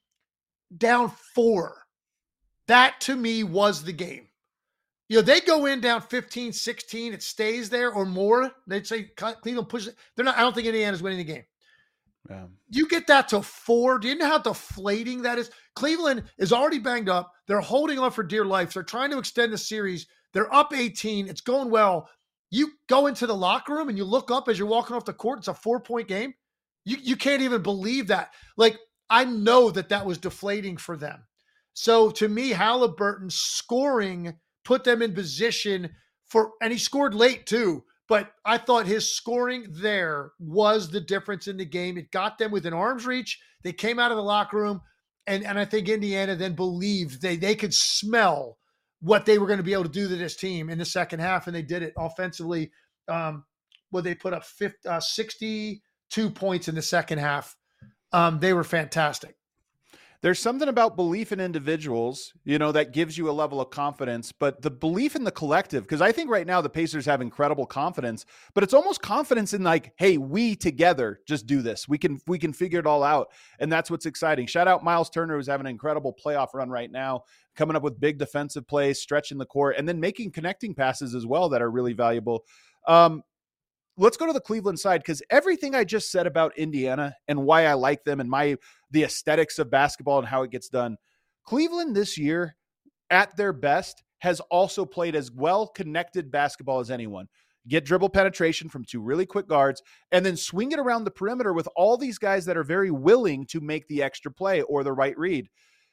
down four. That to me was the game. You know, they go in down fifteen, sixteen, it stays there or more. They'd say Cleveland pushes it. They're not, I don't think Indiana's winning the game. Yeah. You get that to four. Do you know how deflating that is? Cleveland is already banged up. They're holding on for dear life. They're trying to extend the series. They're up eighteen. It's going well. You go into the locker room and you look up as you're walking off the court. It's a four-point game. You, you can't even believe that. Like, I know that that was deflating for them. So to me, Halliburton scoring put them in position for, and he scored late too, but I thought his scoring there was the difference in the game. It got them within arm's reach. They came out of the locker room, and, and I think Indiana then believed they, they could smell what they were going to be able to do to this team in the second half, and they did it offensively. Um, well, they put up fifty, uh, sixty-two points in the second half. Um, they were fantastic. There's something about belief in individuals, you know, that gives you a level of confidence, but the belief in the collective, because I think right now the Pacers have incredible confidence, but it's almost confidence in like, hey, we together just do this. We can, we can figure it all out. And that's what's exciting. Shout out Miles Turner, who's having an incredible playoff run right now, coming up with big defensive plays, stretching the court, and then making connecting passes as well that are really valuable. Um, Let's go to the Cleveland side, because everything I just said about Indiana and why I like them and my the aesthetics of basketball and how it gets done, Cleveland this year at their best has also played as well connected basketball as anyone. Get dribble penetration from two really quick guards and then swing it around the perimeter with all these guys that are very willing to make the extra play or the right read.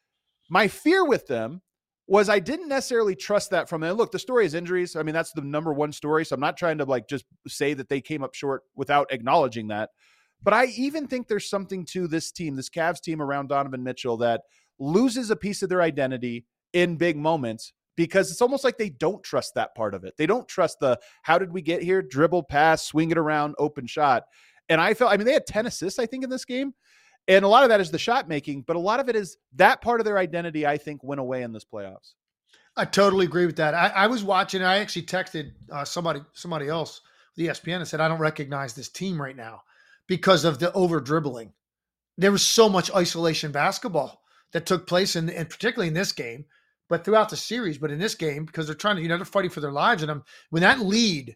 My fear with them was I didn't necessarily trust that from them. Look, the story is injuries. I mean, that's the number one story. So I'm not trying to like just say that they came up short without acknowledging that. But I even think there's something to this team, this Cavs team around Donovan Mitchell, that loses a piece of their identity in big moments because it's almost like they don't trust that part of it. They don't trust the, how did we get here? Dribble, pass, swing it around, open shot. And I felt, I mean, they had ten assists, I think, in this game. And a lot of that is the shot making, but a lot of it is that part of their identity, I think, went away in this playoffs. I totally agree with that. I, I was watching, I actually texted uh, somebody, somebody else, the E S P N, and said, I don't recognize this team right now because of the over dribbling. There was so much isolation basketball that took place, in, and particularly in this game, but throughout the series, but in this game, because they're trying to, you know, they're fighting for their lives. And I'm, when that lead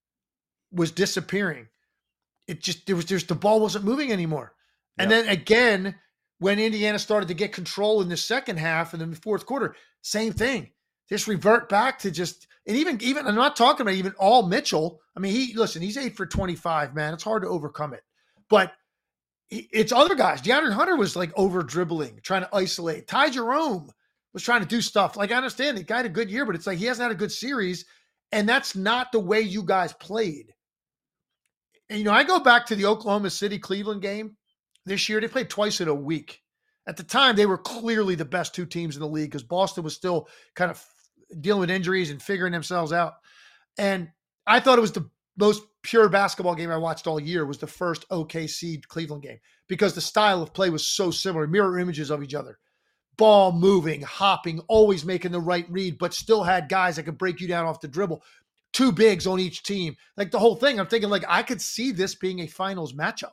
was disappearing, it just, there was, there's the ball wasn't moving anymore. And yep. Then again, when Indiana started to get control in the second half and then the fourth quarter, same thing. Just revert back to just, and even, even, I'm not talking about even all Mitchell. I mean, he, listen, he's eight for twenty-five, man. It's hard to overcome it. But he, it's other guys. DeAndre Hunter was like over dribbling, trying to isolate. Ty Jerome was trying to do stuff. Like, I understand the guy had a good year, but it's like he hasn't had a good series. And that's not the way you guys played. And, you know, I go back to the Oklahoma City Cleveland game. This year, they played twice in a week. At the time, they were clearly the best two teams in the league because Boston was still kind of dealing with injuries and figuring themselves out. And I thought it was the most pure basketball game I watched all year was the first O K C Cleveland game because the style of play was so similar, mirror images of each other. Ball moving, hopping, always making the right read, but still had guys that could break you down off the dribble. Two bigs on each team. Like the whole thing, I'm thinking like I could see this being a finals matchup.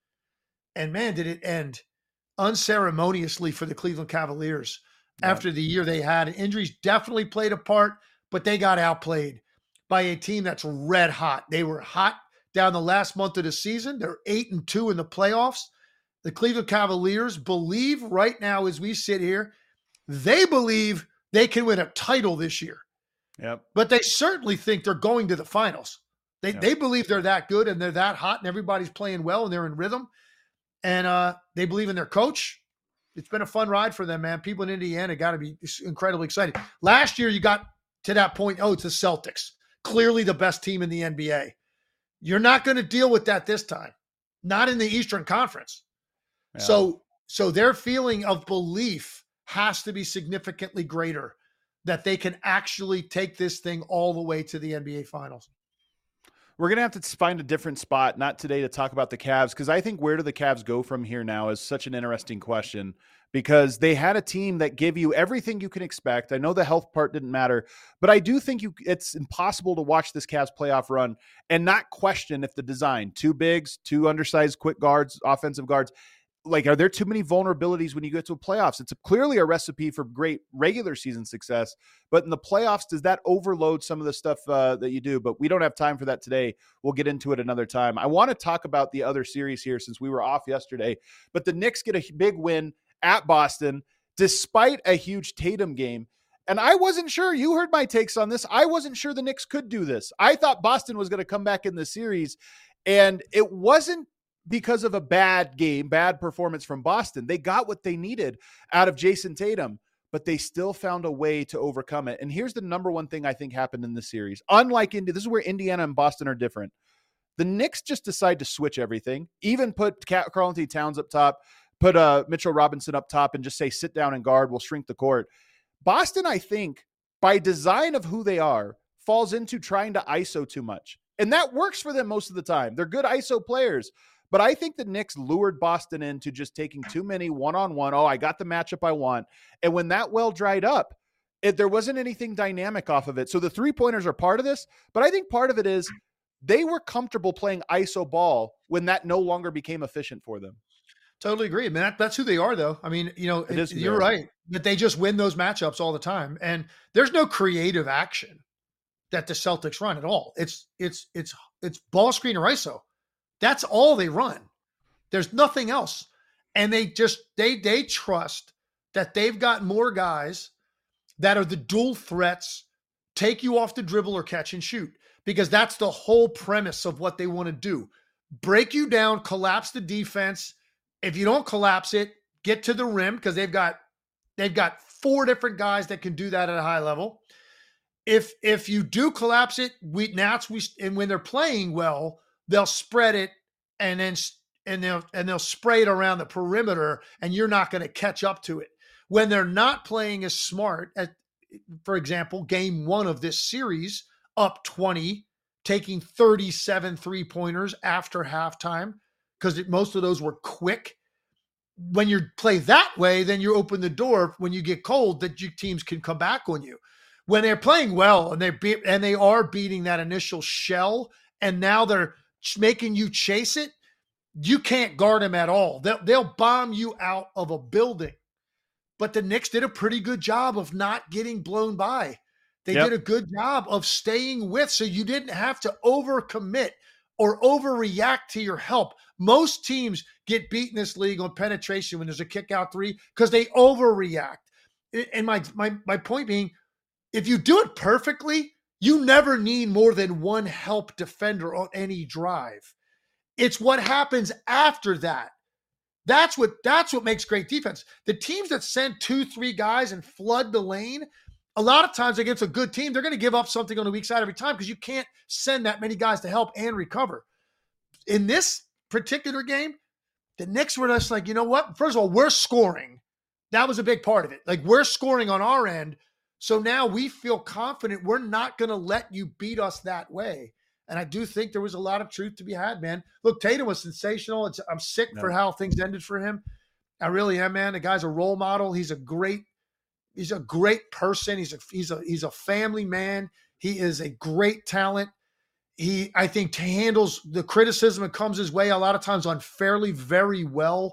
And man, did it end unceremoniously for the Cleveland Cavaliers yeah. after the year they had. Injuries definitely played a part, but they got outplayed by a team that's red hot. They were hot down the last month of the season. They're eight and two in the playoffs. The Cleveland Cavaliers believe right now as we sit here, they believe they can win a title this year. Yep. But they certainly think they're going to the finals. They yep. they believe they're that good and they're that hot and everybody's playing well and they're in rhythm. And uh, they believe in their coach. It's been a fun ride for them, man. People in Indiana got to be incredibly excited. Last year, you got to that point, oh, it's the Celtics. Clearly the best team in the N B A. You're not going to deal with that this time. Not in the Eastern Conference. Yeah. So, so their feeling of belief has to be significantly greater that they can actually take this thing all the way to the N B A Finals. We're going to have to find a different spot, not today, to talk about the Cavs, because I think where do the Cavs go from here now is such an interesting question, because they had a team that gave you everything you can expect. I know the health part didn't matter, but I do think you it's impossible to watch this Cavs playoff run and not question if the design, two bigs, two undersized quick guards, offensive guards, like, are there too many vulnerabilities when you get to a playoffs? It's a, clearly a recipe for great regular season success, but in the playoffs, does that overload some of the stuff uh, that you do? But we don't have time for that today. We'll get into it another time. I want to talk about the other series here since we were off yesterday, but the Knicks get a big win at Boston, despite a huge Tatum game. And I wasn't sure, you heard my takes on this. I wasn't sure the Knicks could do this. I thought Boston was going to come back in the series, and it wasn't because of a bad game, bad performance from Boston. They got what they needed out of Jason Tatum, but they still found a way to overcome it. And here's the number one thing I think happened in this series. Unlike Indy, this is where Indiana and Boston are different. The Knicks just decide to switch everything, even put Karl-Anthony Towns up top, put uh, Mitchell Robinson up top, and just say, sit down and guard, we'll shrink the court. Boston, I think, by design of who they are, falls into trying to I S O too much. And that works for them most of the time. They're good I S O players. But I think the Knicks lured Boston into just taking too many one-on-one. Oh, I got the matchup I want. And when that well dried up, it, there wasn't anything dynamic off of it. So the three-pointers are part of this, but I think part of it is they were comfortable playing I S O ball when that no longer became efficient for them. Totally agree. I mean, that, that's who they are, though. I mean, you know, It is who they you're are. right that they just win those matchups all the time, and there's no creative action that the Celtics run at all. It's it's it's it's ball screen or I S O. That's all they run. There's nothing else, and they just they they trust that they've got more guys that are the dual threats, take you off the dribble or catch and shoot, because that's the whole premise of what they want to do: break you down, collapse the defense. If you don't collapse it, get to the rim, because they've got they've got four different guys that can do that at a high level. If if you do collapse it, we Nats we and when they're playing well, they'll spread it and then and they'll and they'll spray it around the perimeter, and you're not going to catch up to it. When they're not playing as smart, as, for example, game one of this series, up twenty, taking thirty-seven three-pointers after halftime, because most of those were quick. When you play that way, then you open the door when you get cold that your teams can come back on you. When they're playing well and they be, and they are beating that initial shell, and now they're making you chase it, you can't guard them at all. They'll, they'll bomb you out of a building. But the Knicks did a pretty good job of not getting blown by. They Yep. did a good job of staying with, so you didn't have to overcommit or overreact to your help. Most teams get beat in this league on penetration when there's a kick out three because they overreact. And my, my, my point being, if you do it perfectly, you never need more than one help defender on any drive. It's what happens after that. That's what that's what makes great defense. The teams that send two, three guys and flood the lane, a lot of times against a good team, they're going to give up something on the weak side every time because you can't send that many guys to help and recover. In this particular game, the Knicks were just like, you know what? First of all, we're scoring. That was a big part of it. Like, we're scoring on our end. So now we feel confident we're not going to let you beat us that way. And I do think there was a lot of truth to be had, man. Look, Tatum was sensational. It's, I'm sick No. for how things ended for him. I really am, man. The guy's a role model. He's a great, he's a great person. He's a he's a he's a family man. He is a great talent. He, I think, handles the criticism that comes his way a lot of times unfairly very well.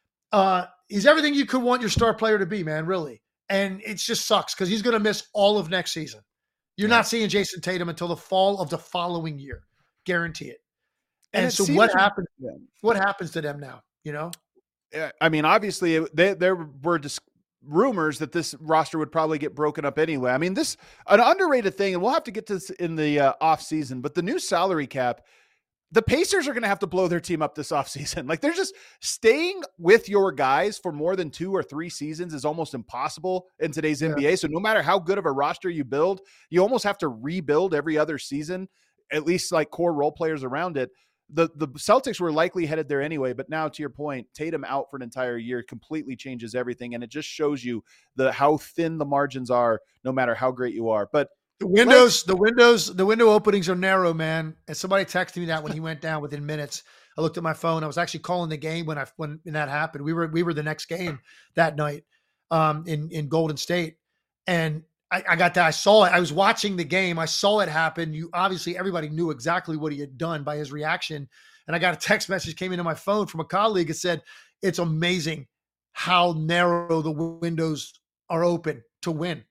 Uh, he's everything you could want your star player to be, man, really. And it just sucks because he's going to miss all of next season. You're Yeah. not seeing Jason Tatum until the fall of the following year. Guarantee it. And And, it so seems- what happens? Yeah. What happens to them now? You know? Yeah, I mean, obviously, it- they, there were just rumors that this roster would probably get broken up anyway. I mean, this an underrated thing, and we'll have to get to this in the uh, off season. But the new salary cap, the Pacers are going to have to blow their team up this offseason. Like, they're just staying with your guys for more than two or three seasons is almost impossible in today's Yeah. N B A. So no matter how good of a roster you build, you almost have to rebuild every other season, at least like core role players around it. The the Celtics were likely headed there anyway, but now to your point, Tatum out for an entire year completely changes everything. And it just shows you the how thin the margins are, no matter how great you are. But The windows, the windows, the window openings are narrow, man. And somebody texted me that when he went down within minutes. I looked at my phone. I was actually calling the game when I when, when that happened. We were we were the next game that night um, in in Golden State, and I, I got that. I saw it. I was watching the game. I saw it happen. You obviously everybody knew exactly what he had done by his reaction. And I got a text message came into my phone from a colleague that said, "It's amazing how narrow the windows are open to win."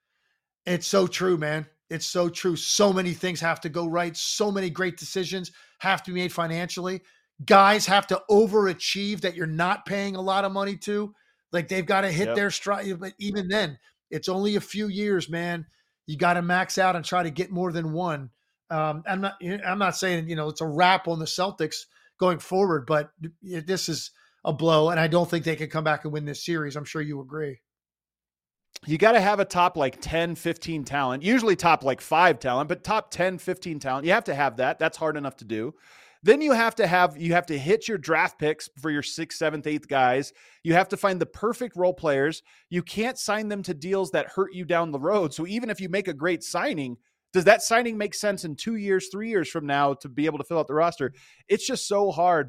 It's so true, man. It's so true. So many things have to go right. So many great decisions have to be made financially. Guys have to overachieve that you're not paying a lot of money to. Like, they've got to hit Yep. their stride. But even then, it's only a few years, man. You got to max out and try to get more than one. Um, I'm not. I'm not saying, you know, it's a wrap on the Celtics going forward, but this is a blow, and I don't think they can come back and win this series. I'm sure you agree. you got to have a top like ten, fifteen talent, usually top like five talent, but top ten, fifteen talent. You have to have that. That's hard enough to do. Then you have to have, you have to hit your draft picks for your sixth, seventh, eighth guys. You have to find the perfect role players. You can't sign them to deals that hurt you down the road. So even if you make a great signing, does that signing make sense in two years, three years from now to be able to fill out the roster? It's just so hard. But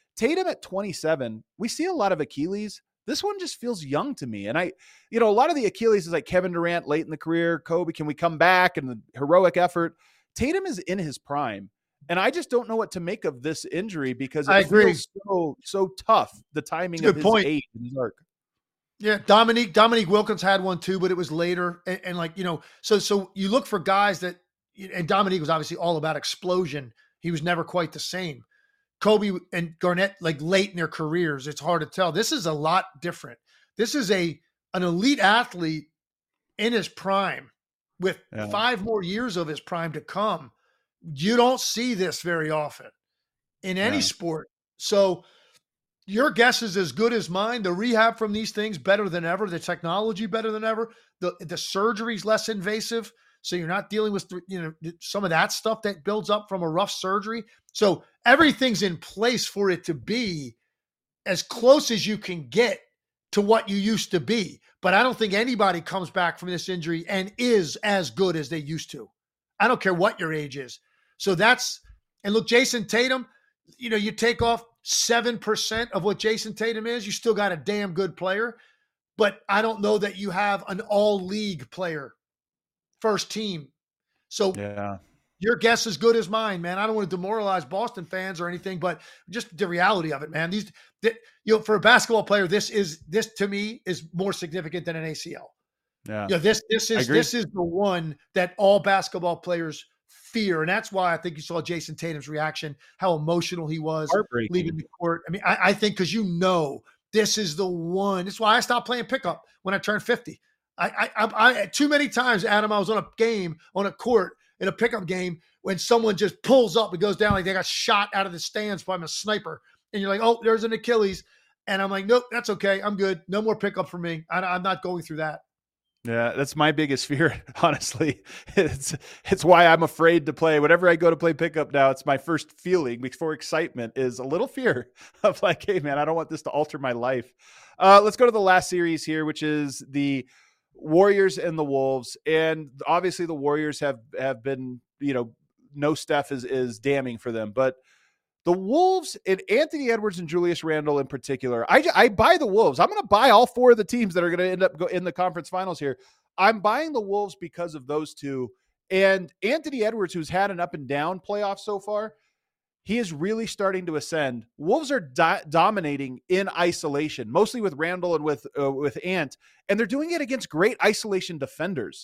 Tatum at twenty-seven, we see a lot of Achilles. This one just feels young to me. And I, you know, a lot of the Achilles is like Kevin Durant late in the career, Kobe, can we come back, and the heroic effort. Tatum is in his prime. And I just don't know what to make of this injury because it I agree. feels so, so tough, the timing of his point. age and his arc. Yeah, Dominique Dominique Wilkins had one too, but it was later. And, and like, you know, so so you look for guys that, and Dominique was obviously all about explosion. He was never quite the same. Kobe and Garnett, like late in their careers, it's hard to tell. This is a lot different. This is a an elite athlete in his prime with Yeah. five more years of his prime to come. You don't see this very often in any Yeah. sport. So your guess is as good as mine. The rehab from these things better than ever. The technology better than ever. The the surgery's less invasive, so you're not dealing with, you know, some of that stuff that builds up from a rough surgery. So everything's in place for it to be as close as you can get to what you used to be. But I don't think anybody comes back from this injury and is as good as they used to. I don't care what your age is. So that's, and look, Jason Tatum, you know, you take off seven percent of what Jason Tatum is, you still got a damn good player. But I don't know that you have an all-league player, first team. So Yeah. your guess is good as mine, man. I don't want to demoralize Boston fans or anything, but just the reality of it, man. These, the, you know, for a basketball player, this is this to me is more significant than an A C L. Yeah. Yeah, this this is agree. this is the one that all basketball players fear, and that's why I think you saw Jason Tatum's reaction, how emotional he was Heartbreaking. leaving the court. I mean, I, I think because you know this is the one. That's why I stopped playing pickup when I turned fifty. I, I, I, I too many times, Adam, I was on a game on a court in a pickup game when someone just pulls up and goes down like they got shot out of the stands by a sniper, and you're like, oh, there's an Achilles, and I'm like, nope, that's okay, I'm good, no more pickup for me. I, I'm not going through that. Yeah, that's my biggest fear, honestly. It's it's why I'm afraid to play. Whenever I go to play pickup now, it's my first feeling before excitement is a little fear of like, hey, man, I don't want this to alter my life. Uh, let's go to the last series here, which is the Warriors and the Wolves. And obviously the Warriors have have been, you know, no Steph is, is damning for them. But the Wolves and Anthony Edwards and Julius Randle in particular, I, I buy the Wolves. I'm going to buy all four of the teams that are going to end up go in the conference finals here. I'm buying the Wolves because of those two. And Anthony Edwards, who's had an up and down playoff so far, he is really starting to ascend. Wolves are do- dominating in isolation, mostly with Randle and with uh, with Ant, and they're doing it against great isolation defenders.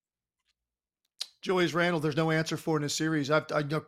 Julius Randle, there's no answer for in this series. I've, I know,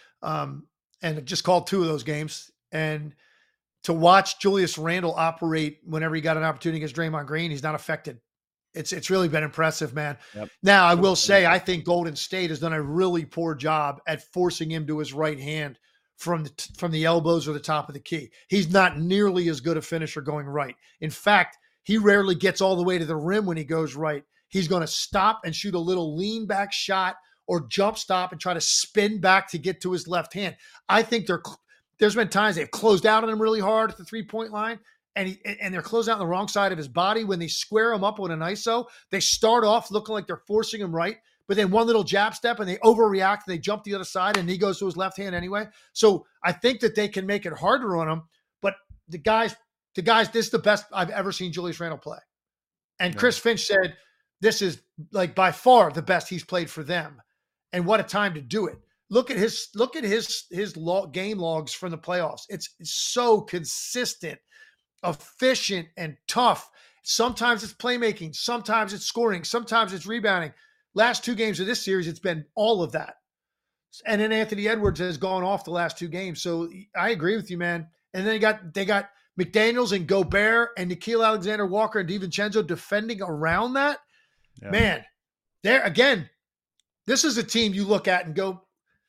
um, and just called two of those games. And to watch Julius Randle operate whenever he got an opportunity against Draymond Green, he's not affected. It's it's really been impressive, man. Yep. Now, I will say, I think Golden State has done a really poor job at forcing him to his right hand from the from the elbows or the top of the key. He's not nearly as good a finisher going right. In fact, he rarely gets all the way to the rim when he goes right. He's going to stop and shoot a little lean back shot or jump stop and try to spin back to get to his left hand. I think they're, there's been times they've closed out on him really hard at the three-point line, and he, and they're closed out on the wrong side of his body. When they square him up with an I S O, they start off looking like they're forcing him right, but then one little jab step and they overreact and they jump the other side and he goes to his left hand anyway. So I think that they can make it harder on him, but the guys, the guys, this is the best I've ever seen Julius Randle play. And Yeah. Chris Finch said, this is like by far the best he's played for them. And what a time to do it. Look at his, look at his, his log, game logs from the playoffs. It's, it's so consistent, efficient, and tough. Sometimes it's playmaking. Sometimes it's scoring. Sometimes it's rebounding. Last two games of this series, it's been all of that. And then Anthony Edwards has gone off the last two games. So I agree with you, man. And then they got, they got McDaniels and Gobert and Nickeil Alexander-Walker and DiVincenzo defending around that. Yeah. Man, there again, this is a team you look at and go,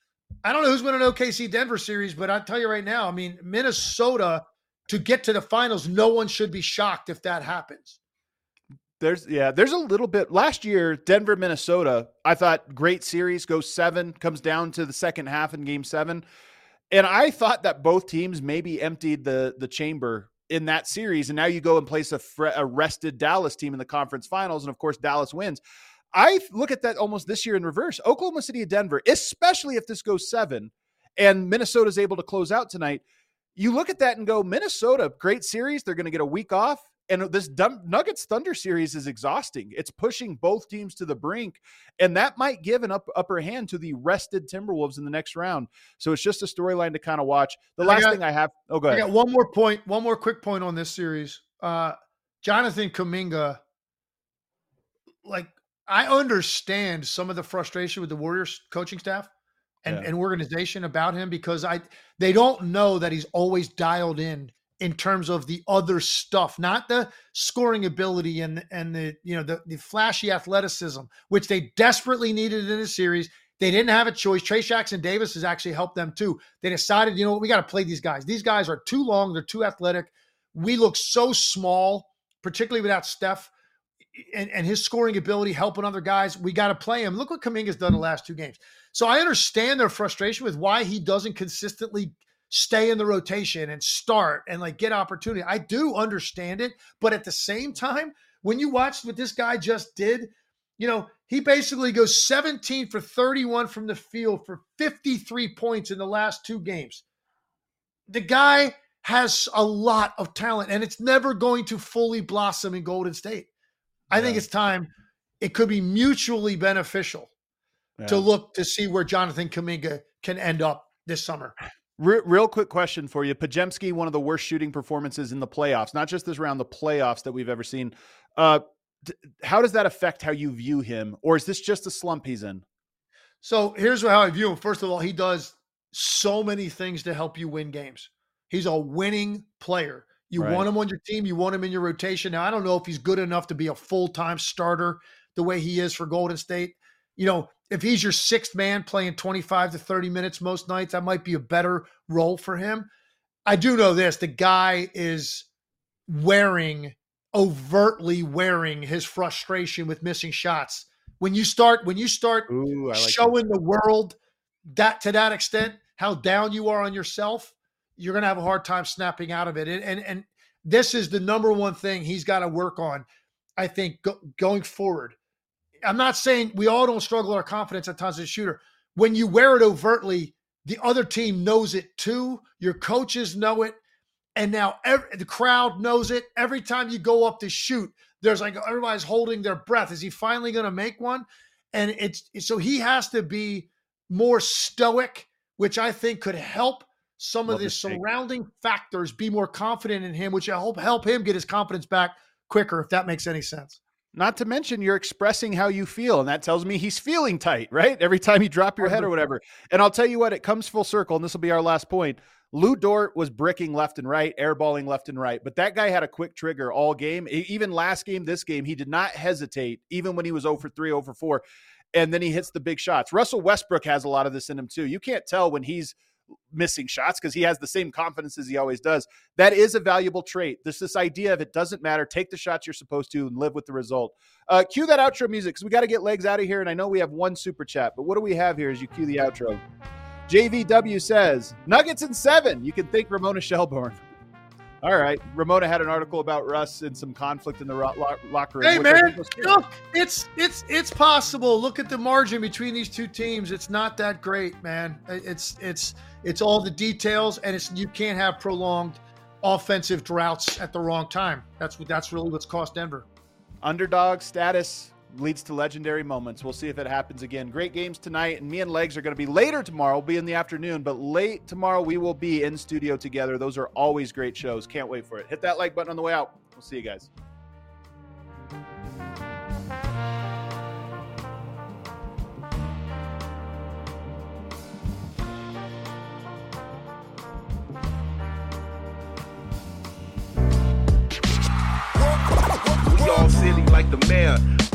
I don't know who's winning an O K C Denver series, but I'll tell you right now, I mean, Minnesota to get to the finals, no one should be shocked if that happens. There's yeah, there's a little bit last year, Denver, Minnesota, I thought great series, goes seven, comes down to the second half in game seven. And I thought that both teams maybe emptied the, the chamber in that series. And now you go and place a, fre- a rested Dallas team in the conference finals. And of course, Dallas wins. I look at that almost this year in reverse. Oklahoma City and Denver, especially if this goes seven and Minnesota is able to close out tonight, you look at that and go, Minnesota, great series. They're going to get a week off. And this Nuggets Thunder series is exhausting. It's pushing both teams to the brink, and that might give an up, upper hand to the rested Timberwolves in the next round. So it's just a storyline to kind of watch. The last got, thing I have, oh, go ahead. I got one more point, one more quick point on this series. Uh, Jonathan Kuminga, like, I understand some of the frustration with the Warriors coaching staff and, yeah. and organization about him, because I they don't know that he's always dialed in in terms of the other stuff, not the scoring ability and, and the, you know, the, the flashy athleticism, which they desperately needed in the series. They didn't have a choice. Trayce Jackson-Davis has actually helped them too. They decided, you know what, we got to play these guys. These guys are too long. They're too athletic. We look so small, particularly without Steph and, and his scoring ability, helping other guys. We got to play him. Look what Kuminga's done the last two games. So I understand their frustration with why he doesn't consistently stay in the rotation and start and like get opportunity. I do understand it. But at the same time, when you watch what this guy just did, you know, he basically goes seventeen for thirty-one from the field for fifty-three points in the last two games. The guy has a lot of talent, and it's never going to fully blossom in Golden State. I yeah. think it's time. It could be mutually beneficial yeah. to look to see where Jonathan Kuminga can end up this summer. Re- real quick question for you. Podziemski, one of the worst shooting performances in the playoffs, not just this round, the playoffs that we've ever seen. Uh, d- how does that affect how you view him? Or is this just a slump he's in? So here's how I view him. First of all, he does so many things to help you win games. He's a winning player. You right. want him on your team. You want him in your rotation. Now, I don't know if he's good enough to be a full-time starter the way he is for Golden State. You know, if he's your sixth man playing twenty-five to thirty minutes most nights, that might be a better role for him. I do know this. The guy is wearing, overtly wearing his frustration with missing shots. When you start, when you start Ooh, I like showing that. the world that to that extent, how down you are on yourself, you're going to have a hard time snapping out of it. And, and, and this is the number one thing he's got to work on, I think, go, going forward. I'm not saying we all don't struggle with our confidence at times as a shooter. When you wear it overtly, the other team knows it too. Your coaches know it. And now every, the crowd knows it. Every time you go up to shoot, there's like, everybody's holding their breath. Is he finally going to make one? And it's, so he has to be more stoic, which I think could help some Love of the surrounding take. factors be more confident in him, which I hope help him get his confidence back quicker, if that makes any sense. Not to mention you're expressing how you feel, and that tells me he's feeling tight, right? Every time you drop your head or whatever. And I'll tell you what, it comes full circle, and this will be our last point. Lou Dort was bricking left and right, airballing left and right, but that guy had a quick trigger all game. Even last game, this game, he did not hesitate, even when he was zero for three, zero for four, and then he hits the big shots. Russell Westbrook has a lot of this in him too. You can't tell when he's missing shots because he has the same confidence as he always does. That is a valuable trait. This this idea of it doesn't matter. Take the shots you're supposed to and live with the result. Uh, cue that outro music because we got to get legs out of here. And I know we have one super chat, but what do we have here as you cue the outro? J V W says, Nuggets in seven. You can thank Ramona Shelburne. All right. Ramona had an article about Russ and some conflict in the ro- lo- locker room. Hey, man, look, it's it's it's possible. Look at the margin between these two teams. It's not that great, man. It's it's it's all the details, and it's you can't have prolonged offensive droughts at the wrong time. That's what that's really what's cost Denver. Underdog status leads to legendary moments. We'll see if it happens again. Great games tonight, and me and Legs are going to be later tomorrow. We'll be in the afternoon, but late tomorrow we will be in studio together. Those are always great shows. Can't wait for it. Hit that like button on the way out. We'll see you guys. We all silly like the mayor.